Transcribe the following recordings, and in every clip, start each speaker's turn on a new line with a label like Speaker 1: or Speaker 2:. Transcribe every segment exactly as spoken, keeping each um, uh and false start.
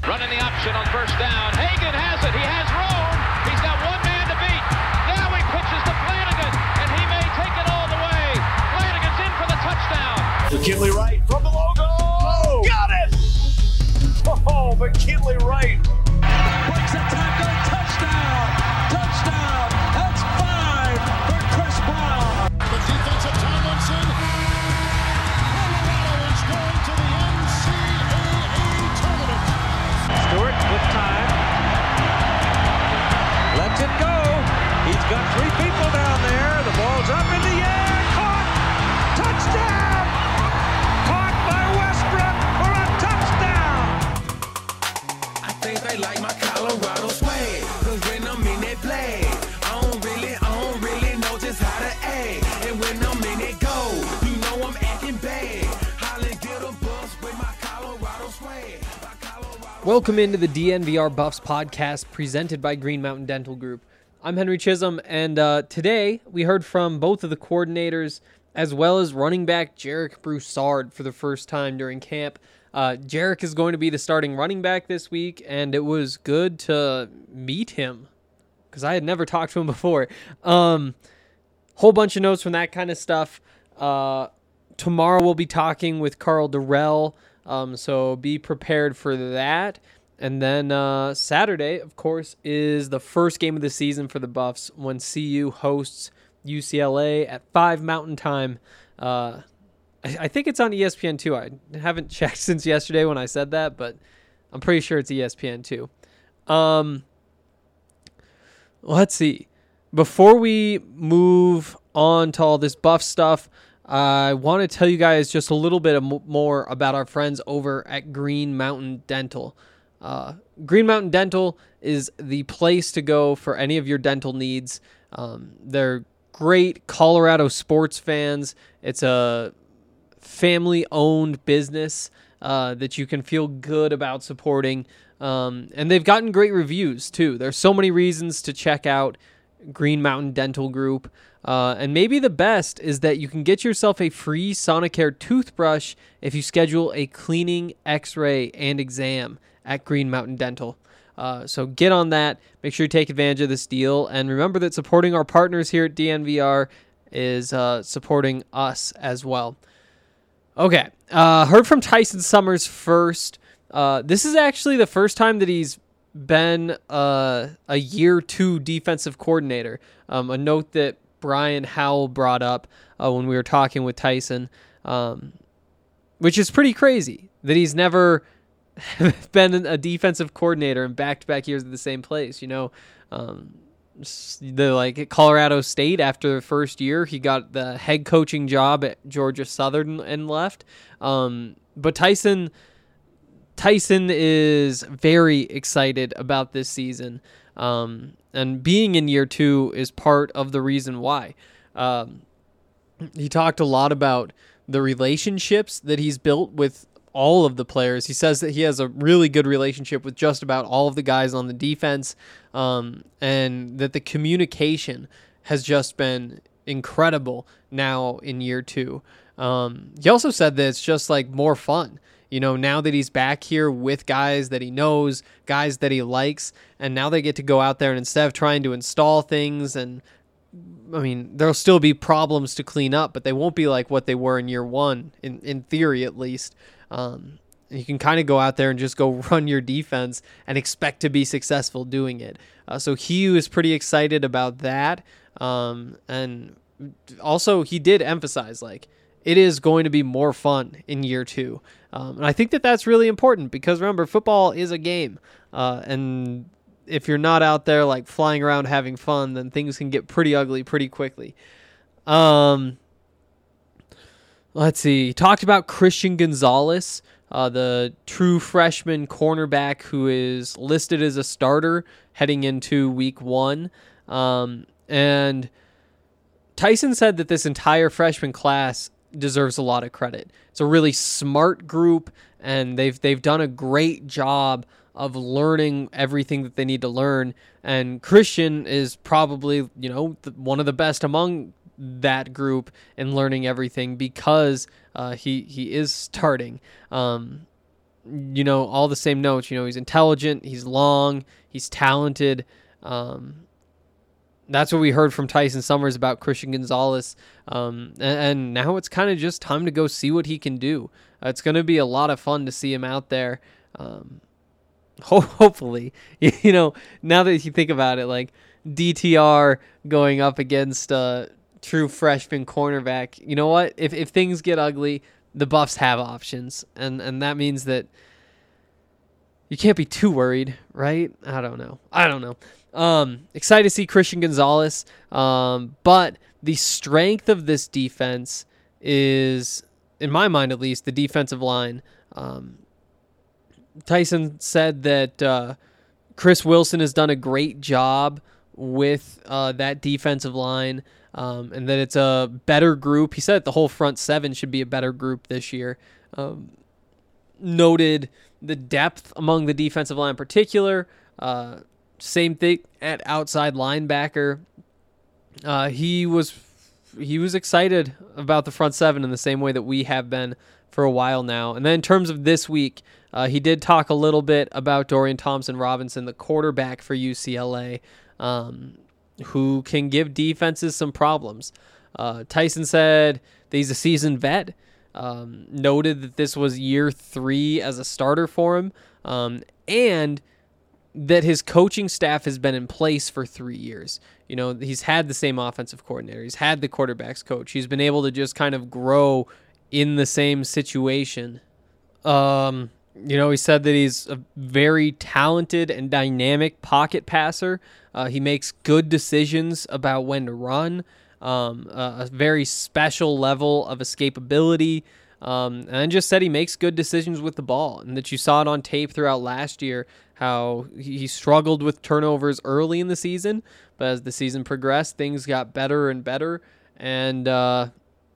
Speaker 1: Running the option on first down. Hagan has it. He has room. He's got one man to beat. Now he pitches to Flanagan, and he may take it all the way. Flanagan's in for the touchdown.
Speaker 2: McKinley Wright from the logo. Oh, got it! Oh, McKinley Wright.
Speaker 3: Breaks a tackle. Touchdown. Touchdown. That's five for Chris Brown.
Speaker 4: The defensive Tomlinson. Colorado is going to the N C double A tournament.
Speaker 3: Stewart with time. Lets it go. He's got three people down there. The ball's up in the air. Caught. Touchdown. Caught by Westbrook for a touchdown.
Speaker 5: I think they like my Colorado swag. Cause when I'm in that play, I don't really, I don't really know just how to act. And when I'm in it go, you know I'm acting bad. Holly get a bus with my Colorado swag. My Colorado
Speaker 6: Welcome into the D N V R Buffs podcast presented by Green Mountain Dental Group. I'm Henry Chisholm, and uh, today we heard from both of the coordinators as well as running back Jarek Broussard for the first time during camp. Uh, Jarek is going to be the starting running back this week, and it was good to meet him because I had never talked to him before. Um, whole bunch of notes from that kind of stuff. Uh, tomorrow we'll be talking with Carl Durrell, um, so be prepared for that. And then uh, Saturday, of course, is the first game of the season for the Buffs when C U hosts U C L A at five Mountain Time. Uh, I, I think it's on E S P N two. I haven't checked since yesterday when I said that, but I'm pretty sure it's E S P N two. Um, let's see. Before we move on to all this Buff stuff, I want to tell you guys just a little bit more about our friends over at Green Mountain Dental. Uh, Green Mountain Dental is the place to go for any of your dental needs. Um, they're great Colorado sports fans. It's a family-owned business uh, that you can feel good about supporting. Um, and they've gotten great reviews, too. There's so many reasons to check out Green Mountain Dental Group. Uh, and maybe the best is that you can get yourself a free Sonicare toothbrush if you schedule a cleaning, x-ray, and exam at Green Mountain Dental. Uh, so get on that. Make sure you take advantage of this deal. And remember that supporting our partners here at D N V R is uh, supporting us as well. Okay. Uh, heard from Tyson Summers first. Uh, this is actually the first time that he's been uh, a year two defensive coordinator. Um, a note that Brian Howell brought up uh, when we were talking with Tyson, um, which is pretty crazy that he's never been a defensive coordinator in back-to-back years at the same place. You know, um, the like at Colorado State after the first year, he got the head coaching job at Georgia Southern and left. Um, but Tyson, Tyson is very excited about this season, um, and being in year two is part of the reason why. Um, he talked a lot about the relationships that he's built with all of the players. He says that he has a really good relationship with just about all of the guys on the defense, um, and that the communication has just been incredible now in year two. Um, he also said that it's just like more fun, you know, now that he's back here with guys that he knows, guys that he likes, and now they get to go out there and instead of trying to install things, and I mean, there'll still be problems to clean up, but they won't be like what they were in year one, in, in theory at least. Um, you can kind of go out there and just go run your defense and expect to be successful doing it. Uh, so he was pretty excited about that. Um, and also he did emphasize like it is going to be more fun in year two. Um, and I think that that's really important because remember, football is a game. Uh, and if you're not out there like flying around having fun, then things can get pretty ugly pretty quickly. Um, Let's see. He talked about Christian Gonzalez, uh, the true freshman cornerback who is listed as a starter heading into week one. Um, and Tyson said that this entire freshman class deserves a lot of credit. It's a really smart group, and they've they've done a great job of learning everything that they need to learn. And Christian is probably, you know, the, one of the best among that group in learning everything because uh, he he is starting. Um, you know, all the same notes. You know, he's intelligent, he's long, he's talented. Um, that's what we heard from Tyson Summers about Christian Gonzalez. Um, and, and now it's kind of just time to go see what he can do. Uh, it's going to be a lot of fun to see him out there. Um, ho- hopefully, you know, now that you think about it, like D T R going up against a true freshman cornerback, you know what? If if things get ugly, the Buffs have options, and, and that means that you can't be too worried, right? I don't know. I don't know. Um, excited to see Christian Gonzalez, um, but the strength of this defense is, in my mind at least, the defensive line. Um, Tyson said that uh, Chris Wilson has done a great job with uh, that defensive line, um, and that it's a better group. He said that the whole front seven should be a better group this year. Um, noted the depth among the defensive line in particular. Uh, same thing at outside linebacker. Uh, he was he was excited about the front seven in the same way that we have been for a while now. And then in terms of this week, uh, he did talk a little bit about Dorian Thompson-Robinson, the quarterback for U C L A, um, who can give defenses some problems. Uh, Tyson said that he's a seasoned vet. Um, noted that this was year three as a starter for him, um, and that his coaching staff has been in place for three years. You know, he's had the same offensive coordinator. He's had the quarterback's coach. He's been able to just kind of grow in the same situation. Um, you know, he said that he's a very talented and dynamic pocket passer. Uh, he makes good decisions about when to run. Um, a, a very special level of escapability, um, and just said he makes good decisions with the ball, and that you saw it on tape throughout last year how he struggled with turnovers early in the season, but as the season progressed, things got better and better, and uh,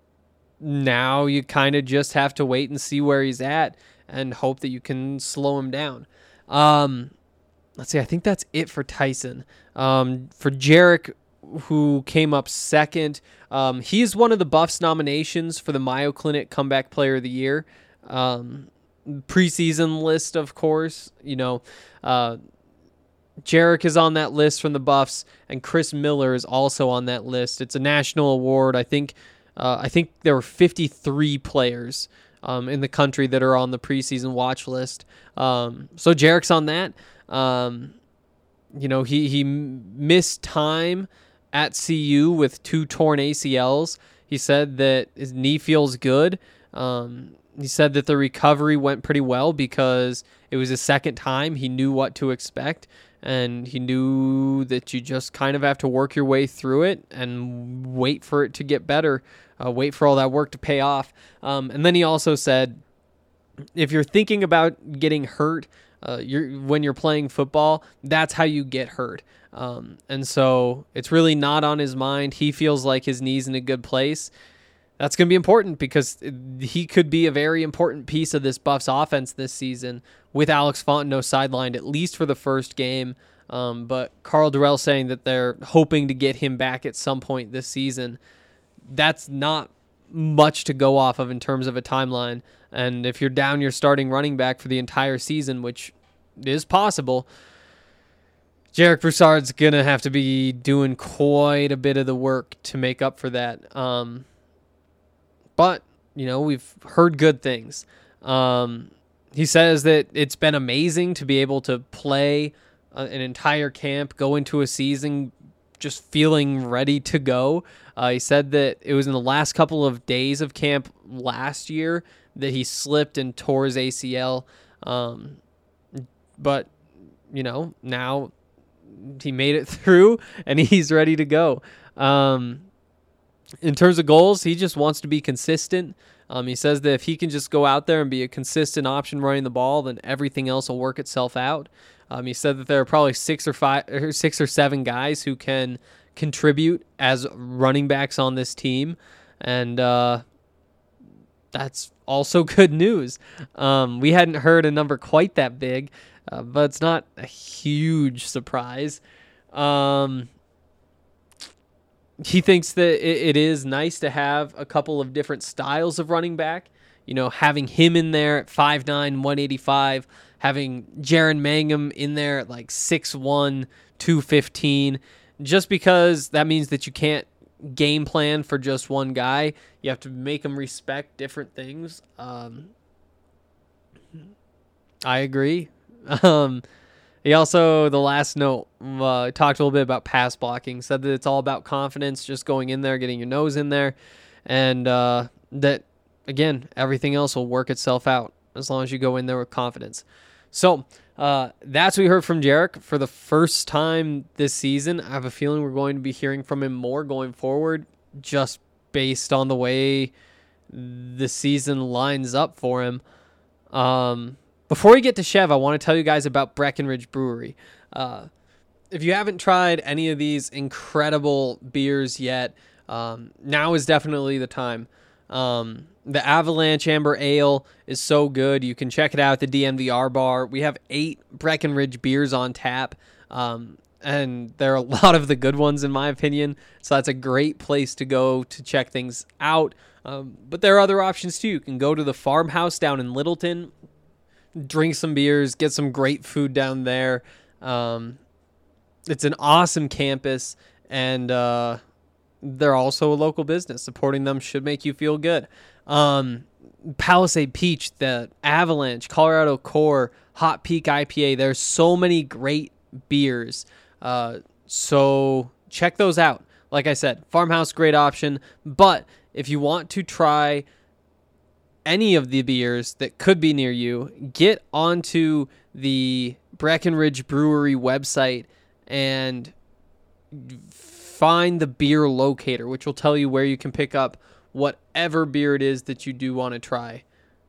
Speaker 6: now you kind of just have to wait and see where he's at and hope that you can slow him down. Um, let's see, I think that's it for Tyson. Um, for Jarek, who came up second. Um, he's one of the Buffs nominations for the Mayo Clinic Comeback Player of the Year. Um, preseason list, of course. You know, uh, Jarek is on that list from the Buffs, and Chris Miller is also on that list. It's a national award. I think uh, I think there were fifty-three players um, in the country that are on the preseason watch list. Um, so Jarek's on that. Um, you know, he, he missed time at C U with two torn A C Ls. He said that his knee feels good. Um, he said that the recovery went pretty well because it was his second time. He knew what to expect, and he knew that you just kind of have to work your way through it and wait for it to get better, uh, wait for all that work to pay off. Um, and then he also said, if you're thinking about getting hurt uh, you're, when you're playing football, that's how you get hurt. Um, and so it's really not on his mind. He feels like his knee's in a good place. That's going to be important because he could be a very important piece of this Buffs offense this season with Alex Fontenot sidelined at least for the first game. Um, but Carl Durrell saying that they're hoping to get him back at some point this season. That's not much to go off of in terms of a timeline. And if you're down your starting running back for the entire season, which is possible, Jarek Broussard's going to have to be doing quite a bit of the work to make up for that. Um, but, you know, we've heard good things. Um, he says that it's been amazing to be able to play uh, an entire camp, go into a season just feeling ready to go. Uh, he said that it was in the last couple of days of camp last year that he slipped and tore his A C L. Um, but, you know, now he made it through and he's ready to go. Um, in terms of goals, he just wants to be consistent. Um, he says that if he can just go out there and be a consistent option running the ball, then everything else will work itself out. Um, he said that there are probably six or five or six or seven guys who can contribute as running backs on this team. And, uh, that's also good news. Um, we hadn't heard a number quite that big, uh, but it's not a huge surprise. Um, he thinks that it, it is nice to have a couple of different styles of running back. you know, having him in there at five nine, one eighty-five, having Jaron Mangum in there at like six one, two fifteen, just because that means that you can't game plan for just one guy. You have to make them respect different things. Um, I agree. Um, he also, the last note, uh, talked a little bit about pass blocking, said that it's all about confidence, just going in there, getting your nose in there, and uh, that, again, everything else will work itself out as long as you go in there with confidence. So uh, that's what we heard from Jarek for the first time this season. I have a feeling we're going to be hearing from him more going forward, just based on the way the season lines up for him. Um, before we get to Chev, I want to tell you guys about Breckenridge Brewery. Uh, if you haven't tried any of these incredible beers yet, um, now is definitely the time. Um, the Avalanche Amber Ale is so good. You can check it out at the D N V R bar. We have eight Breckenridge beers on tap, um, and there are a lot of the good ones in my opinion. So that's a great place to go to check things out. Um, but there are other options too. You can go to the Farmhouse down in Littleton, drink some beers, get some great food down there. Um, it's an awesome campus, and uh, they're also a local business. Supporting them should make you feel good. Um, Palisade Peach, the Avalanche, Colorado Core, Hot Peak I P A. There's so many great beers. Uh, so check those out. Like I said, Farmhouse, great option. But if you want to try any of the beers that could be near you, get onto the Breckenridge Brewery website and find the beer locator, which will tell you where you can pick up whatever beer it is that you do want to try.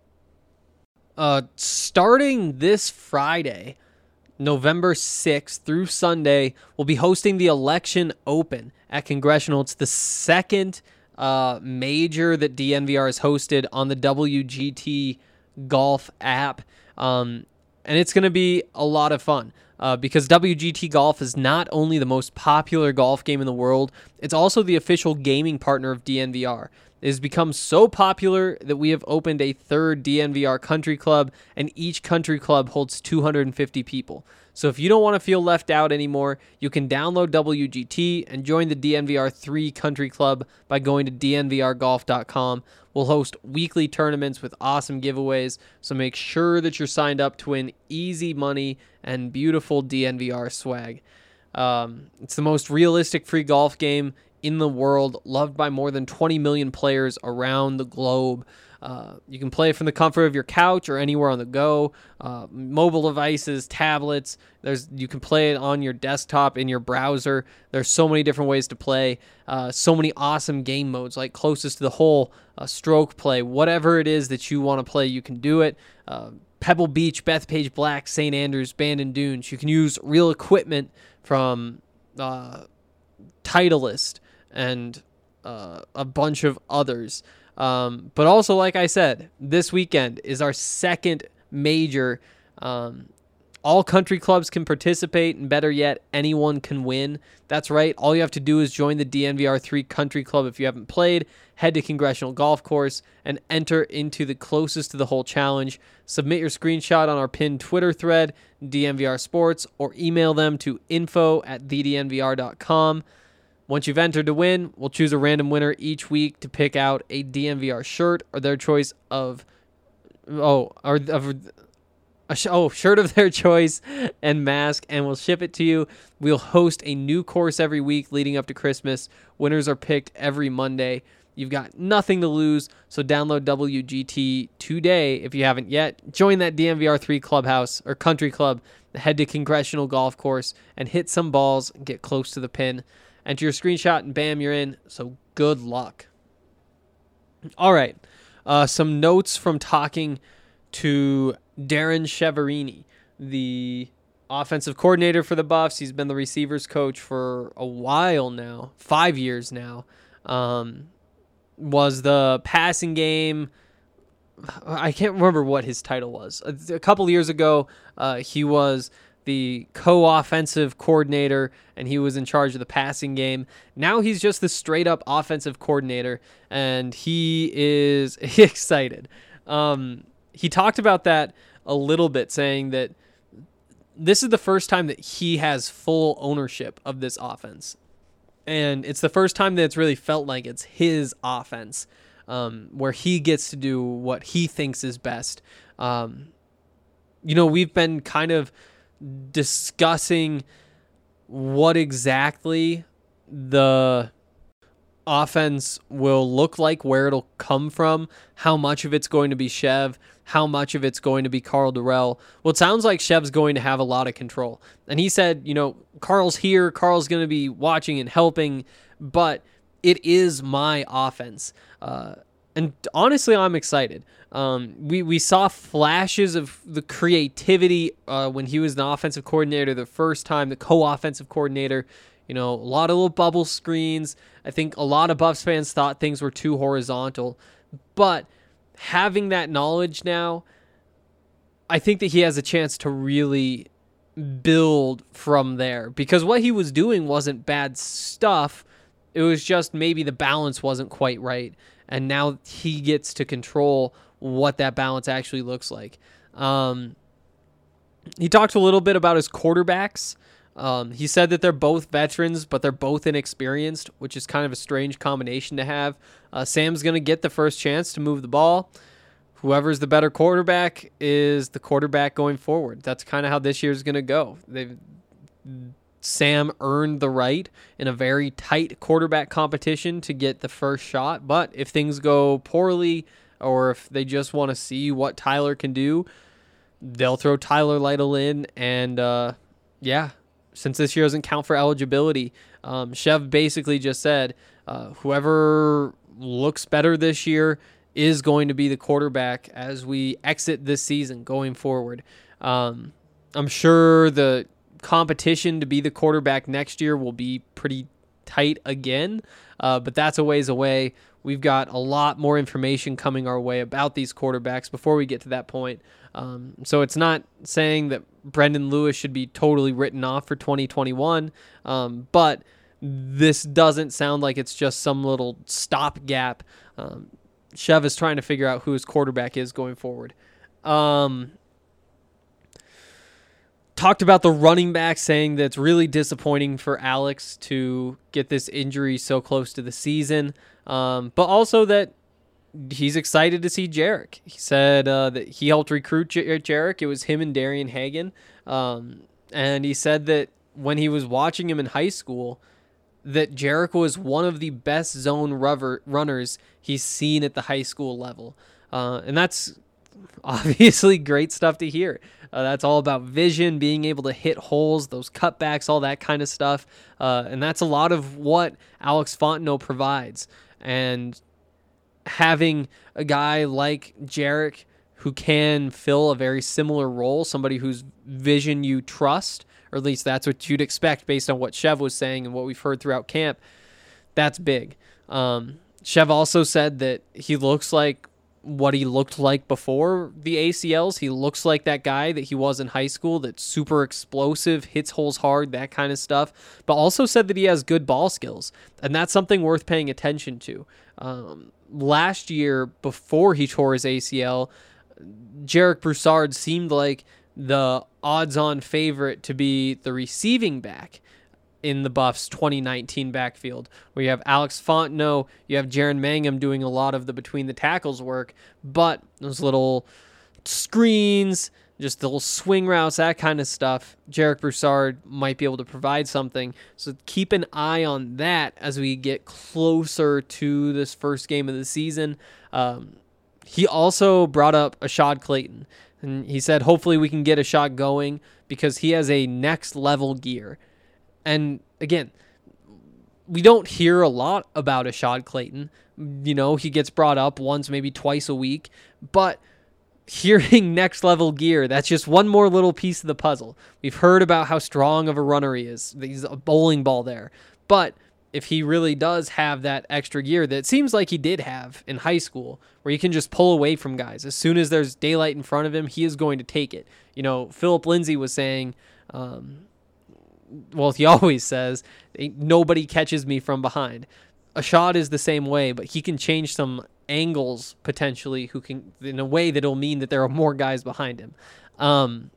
Speaker 6: Uh, starting this Friday, November sixth through Sunday, we'll be hosting the Election Open at Congressional. It's the second uh, major that D N V R has hosted on the W G T Golf app. Um, and it's going to be a lot of fun. Uh, because W G T Golf is not only the most popular golf game in the world, it's also the official gaming partner of D N V R. It has become so popular that we have opened a third D N V R country club, and each country club holds two hundred fifty people. So if you don't want to feel left out anymore, you can download W G T and join the D N V R three country club by going to D N V R golf dot com. We'll host weekly tournaments with awesome giveaways, so make sure that you're signed up to win easy money and beautiful D N V R swag. Um, it's the most realistic free golf game in the world, loved by more than twenty million players around the globe. Uh, you can play from the comfort of your couch or anywhere on the go, uh, mobile devices, tablets. There's you can play it on your desktop, in your browser. There's so many different ways to play. Uh, so many awesome game modes, like closest to the hole, uh, stroke play, whatever it is that you want to play, you can do it. Uh, Pebble Beach, Bethpage Black, Saint Andrews, Bandon Dunes. You can use real equipment from uh, Titleist and uh, a bunch of others. Um, but also, like I said, this weekend is our second major. Um, all country clubs can participate, and better yet, anyone can win. That's right. All you have to do is join the D N V R three Country Club if you haven't played. Head to Congressional Golf Course and enter into the closest to the hole challenge. Submit your screenshot on our pinned Twitter thread, D N V R Sports, or email them to info at the d n v r dot com. Once you've entered to win, we'll choose a random winner each week to pick out a D N V R shirt or their choice of, oh, or of a sh- oh shirt of their choice and mask, and we'll ship it to you. We'll host a new course every week leading up to Christmas. Winners are picked every Monday. You've got nothing to lose, so download W G T today if you haven't yet. Join that D N V R three clubhouse or country club. Head to Congressional Golf Course and hit some balls and get close to the pin. Enter your screenshot and bam, you're in. So good luck. All right. Uh, some notes from talking to Darren Cheverini, the offensive coordinator for the Buffs. He's been the receivers coach for a while now, five years now. Um, was the passing game. I can't remember what his title was. A, a couple years ago, uh, he was the co-offensive coordinator, and he was in charge of the passing game. Now he's just the straight-up offensive coordinator, and he is excited. Um, he talked about that a little bit, saying that this is the first time that he has full ownership of this offense. And it's the first time that it's really felt like it's his offense, um, where he gets to do what he thinks is best. Um, you know, we've been kind of discussing what exactly the offense will look like, where it'll come from, how much of it's going to be Chev, how much of it's going to be Karl Dorrell. Well, it sounds like Chev's going to have a lot of control. And he said, you know, Karl's here, Karl's going to be watching and helping, but it is my offense. Uh, and honestly, I'm excited. Um, we, we saw flashes of the creativity uh, when he was the offensive coordinator the first time, the co-offensive coordinator. You know, a lot of little bubble screens. I think a lot of Buffs fans thought things were too horizontal. But having that knowledge now, I think that he has a chance to really build from there. Because what he was doing wasn't bad stuff. It was just maybe the balance wasn't quite right. And now he gets to control what that balance actually looks like. Um, he talked a little bit about his quarterbacks. Um, he said that they're both veterans, but they're both inexperienced, which is kind of a strange combination to have. Uh, Sam's going to get the first chance to move the ball. Whoever's the better quarterback is the quarterback going forward. That's kind of how this year's going to go. They've Sam earned the right in a very tight quarterback competition to get the first shot, but if things go poorly or if they just want to see what Tyler can do, they'll throw Tyler Lytle in, and uh, yeah, since this year doesn't count for eligibility, um, Chev basically just said uh, whoever looks better this year is going to be the quarterback as we exit this season going forward. Um, I'm sure the competition to be the quarterback next year will be pretty tight again, uh, but that's a ways away. We've got a lot more information coming our way about these quarterbacks before we get to that point. Um, so it's not saying that Brendan Lewis should be totally written off for twenty twenty-one, um, but this doesn't sound like it's just some little stopgap. Um, Chev is trying to figure out who his quarterback is going forward. Um, talked about the running back, saying that it's really disappointing for Alex to get this injury so close to the season, um, but also that he's excited to see Jarek. He said uh, that he helped recruit J- Jarek. It was him and Darian Hagan. Um, and he said that when he was watching him in high school, that Jarek was one of the best zone rubber runners he's seen at the high school level. Uh, and that's obviously great stuff to hear. Uh, that's all about vision, being able to hit holes, those cutbacks, all that kind of stuff. Uh, and that's a lot of what Alex Fontenot provides. And having a guy like Jarek who can fill a very similar role, somebody whose vision you trust, or at least that's what you'd expect based on what Chev was saying and what we've heard throughout camp, that's big. Um, Chev also said that he looks like what he looked like before the A C Ls. He looks like that guy that he was in high school, that's super explosive, hits holes hard, that kind of stuff, but also said that he has good ball skills, and that's something worth paying attention to. Um, last year, before he tore his A C L, Jarek Broussard seemed like the odds-on favorite to be the receiving back in the Buffs twenty nineteen backfield, where you have Alex Fontenot, you have Jaron Mangum doing a lot of the between the tackles work, but those little screens, just the little swing routes, that kind of stuff, Jarek Broussard might be able to provide something. So keep an eye on that as we get closer to this first game of the season. Um, he also brought up Ashad Clayton, and he said hopefully we can get Ashad going because he has a next level gear. And again, we don't hear a lot about Ashad Clayton. You know, he gets brought up once, maybe twice a week, but hearing next level gear, that's just one more little piece of the puzzle. We've heard about how strong of a runner he is. He's a bowling ball there. But if he really does have that extra gear that it seems like he did have in high school, where he can just pull away from guys, as soon as there's daylight in front of him, he is going to take it. You know, Philip Lindsay was saying, um, well, he always says, nobody catches me from behind. Ashad is the same way, but he can change some angles potentially who can, in a way that'll mean that there are more guys behind him. Um,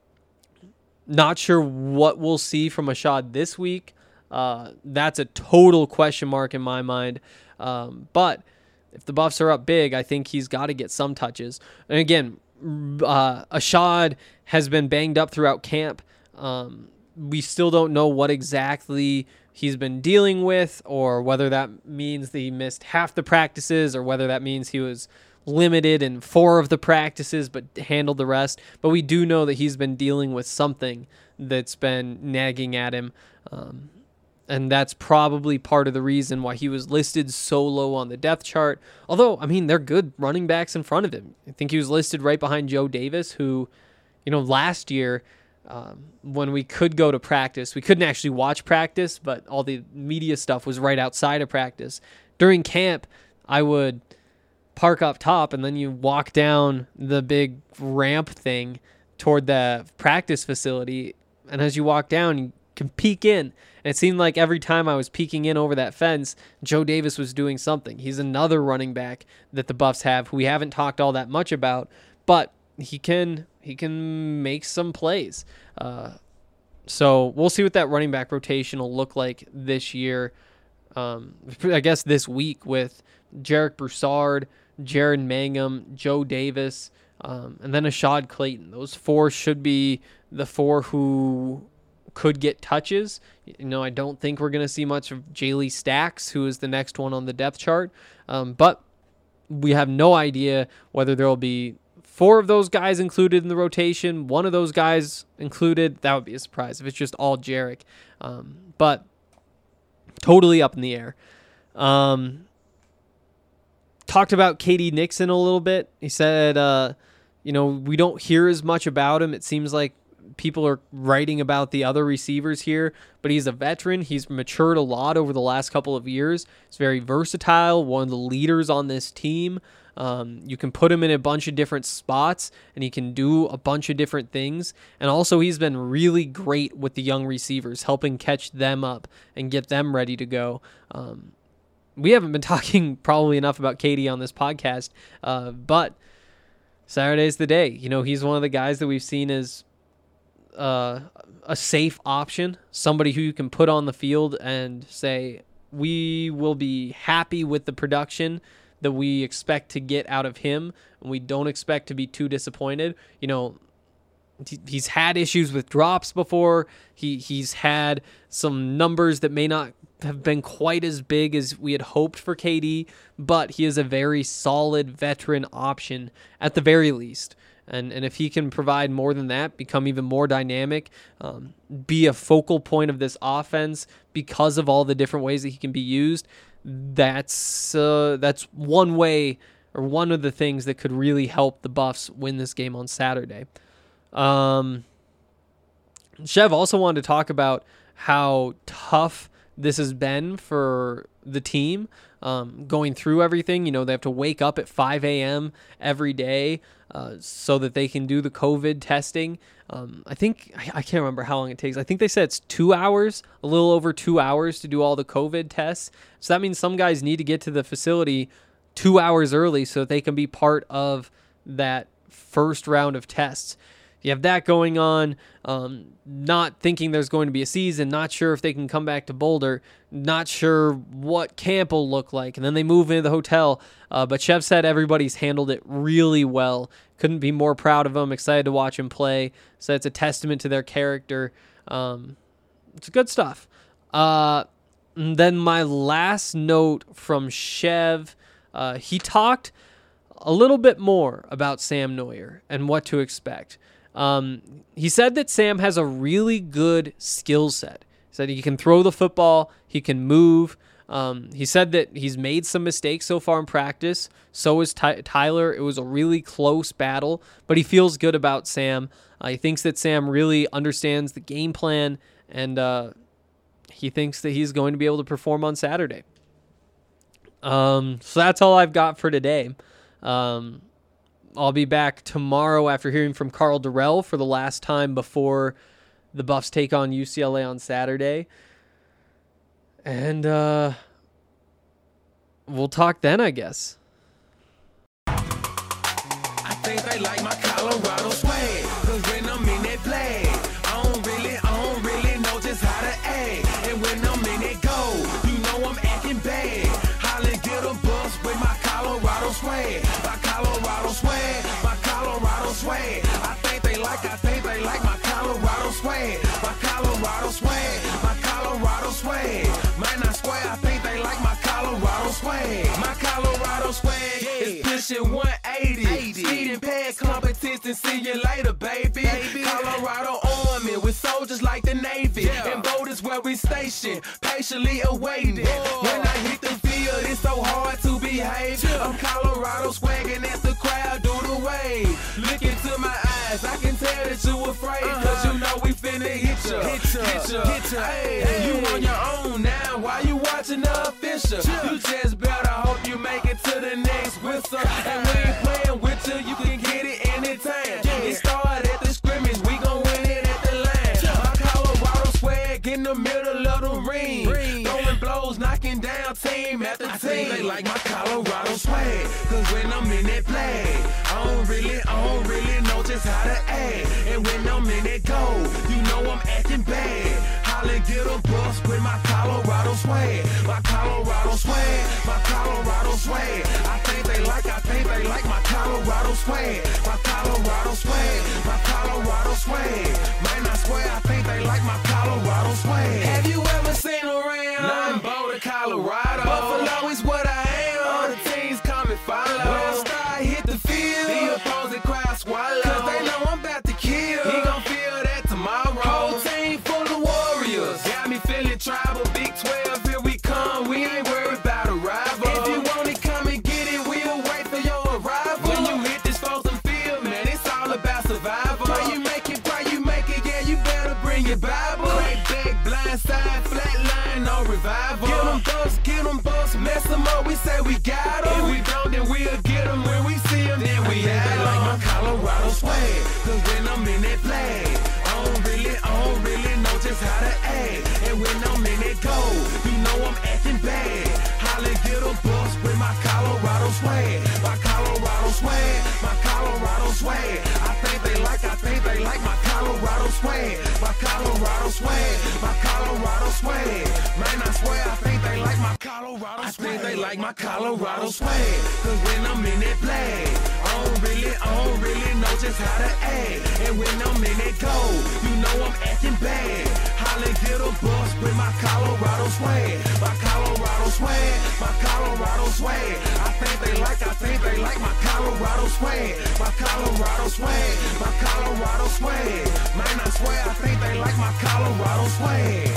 Speaker 6: not sure what we'll see from Ashad this week. Uh, that's a total question mark in my mind. Um, but if the Buffs are up big, I think he's got to get some touches. And again, uh, Ashad has been banged up throughout camp. Um, we still don't know what exactly he's been dealing with, or whether that means that he missed half the practices, or whether that means he was limited in four of the practices but handled the rest. But we do know that he's been dealing with something that's been nagging at him. Um, and that's probably part of the reason why he was listed so low on the depth chart. Although, I mean, they're good running backs in front of him. I think he was listed right behind Joe Davis, who, you know, last year, um, when we could go to practice, we couldn't actually watch practice, but all the media stuff was right outside of practice. During camp, I would park up top, and then you walk down the big ramp thing toward the practice facility. And as you walk down, you can peek in. And it seemed like every time I was peeking in over that fence, Joe Davis was doing something. He's another running back that the Buffs have who we haven't talked all that much about, but he can he can make some plays. Uh, so we'll see what that running back rotation will look like this year. Um, I guess this week with Jarek Broussard, Jared Mangum, Joe Davis, um, and then Ashad Clayton. Those four should be the four who could get touches. You know, I don't think we're going to see much of Jaylee Stacks, who is the next one on the depth chart. Um, but we have no idea whether there will be four of those guys included in the rotation, one of those guys included. That would be a surprise if it's just all Jarek. Um, but totally up in the air. Um, talked about K D Nixon a little bit. He said, uh, you know, we don't hear as much about him. It seems like people are writing about the other receivers here, but he's a veteran. He's matured a lot over the last couple of years. He's very versatile, one of the leaders on this team. Um, you can put him in a bunch of different spots, and he can do a bunch of different things. And also, he's been really great with the young receivers, helping catch them up and get them ready to go. Um, we haven't been talking probably enough about K D on this podcast, uh, but Saturday's the day. You know, he's one of the guys that we've seen as uh, a safe option, somebody who you can put on the field and say, we will be happy with the production that we expect to get out of him, and we don't expect to be too disappointed. You know, he's had issues with drops before. He he's had some numbers that may not have been quite as big as we had hoped for K D, but he is a very solid veteran option at the very least. And and if he can provide more than that, become even more dynamic, um, be a focal point of this offense because of all the different ways that he can be used, that's uh, that's one way, or one of the things that could really help the Buffs win this game on Saturday. Um, Chev also wanted to talk about how tough this has been for the team, um, going through everything. You know, they have to wake up at five a.m. every day uh, so that they can do the COVID testing. Um, I think, I, I can't remember how long it takes. I think they said it's two hours, a little over two hours to do all the COVID tests. So that means some guys need to get to the facility two hours early so that they can be part of that first round of tests. You have that going on, um, not thinking there's going to be a season, not sure if they can come back to Boulder, not sure what camp will look like, and then they move into the hotel. Uh, but Chev said everybody's handled it really well. Couldn't be more proud of them, excited to watch him play. So it's a testament to their character. Um, it's good stuff. Uh, and then my last note from Chev, uh, he talked a little bit more about Sam Noyer and what to expect. Um, he said that Sam has a really good skill set. He said he can throw the football, he can move. Um, he said that he's made some mistakes so far in practice. So is Ty- Tyler. It was a really close battle, but he feels good about Sam. Uh, he thinks that Sam really understands the game plan, and uh, he thinks that he's going to be able to perform on Saturday. Um, so that's all I've got for today. Um, I'll be back tomorrow after hearing from Carl Durrell for the last time before the Buffs take on U C L A on Saturday. And uh, we'll talk then, I guess.
Speaker 5: think they like my Colorado swag. Cause when I'm in that play, I don't really, I don't really know just how to act. And when I'm in that go, you know I'm acting bad. Holla, get a bus with my Colorado swag. My Colorado swag, my Colorado swag. I think they like, I think they like my Colorado swag. My Colorado swag, my Colorado swag. Man, I swear, I think they like my Colorado swag. My Colorado swag is pushing one eighty. Speeding past competition, see you later, baby. baby. Colorado Army with soldiers like the Navy. Yeah. And boat is where we station, patiently awaiting. Whoa. When I hit the field, it's so hard to behave. Yeah. I'm Colorado swagging as the crowd do the wave. Look into my eyes, I can tell that you afraid. Uh-huh. Cause you know we finna hit ya, hit ya, hit ya. Hit ya. Hey, hey. You on your own now, why you watching the official? Yeah. You just better hope you make it to the next whistle. And we ain't playing with you, you can get it anytime. Yeah. It started at the scrimmage, we gon' win it at the line. Yeah. My Colorado swag in the middle of the ring. ring. Throwing blows, knocking down team after I team. They like my Colorado swag, cause when I'm in that play, I don't really, I don't really know just how to act. And when I'm in that go, you know I'm acting bad. Holla, get a bus with my Colorado swag. My Colorado swag, my Colorado swag. I think they like, I think they like my Colorado swag. My Colorado swag, my Colorado swag. Man, I swear, I think they like my Colorado swag. Have you ever seen around? Nothing but Colorado. Buffalo is what I am. All the teams come and follow. When I start hit the field, the opposing crowd swallow. Cause they know I'm about to kill. He gon' feel that tomorrow. Whole team full of warriors. Got me feeling tribal. Big twelve, here we come. We ain't worried about a rival. If you want it, come and get it. We'll wait for your arrival. When you hit this frozen field, man, it's all about survival. Pray you make it, pray you make it. Yeah, you better bring your Bible. Crack back, blind side, flat line, no revival. Get them bucks, get them bucks, mess them up. We say we got them. If we don't, then we'll get them. When we see them, then we have them. Like my Colorado swag, cause when I'm in that flag, I don't really, I don't really know just how to act. And when I'm in that go, you know I'm acting bad. Holla, get a bus with my Colorado swag. My Colorado swag, my Colorado swag. I think they like, I think they like my Colorado swag. My Colorado swag, my Colorado swag. Man, I swear, I think they like my Colorado swag. I think they like my Colorado swag. Cause when I'm in that flag, I don't really, I don't really know just how to act. And when I'm in that go, you know I'm acting bad. Holla, get a bus with my Colorado swag. My Colorado swag, my Colorado swag. I think they like, I think they like my Colorado swag. My Colorado swag, my Colorado swag. Man, I swear, I think they like my Colorado swag.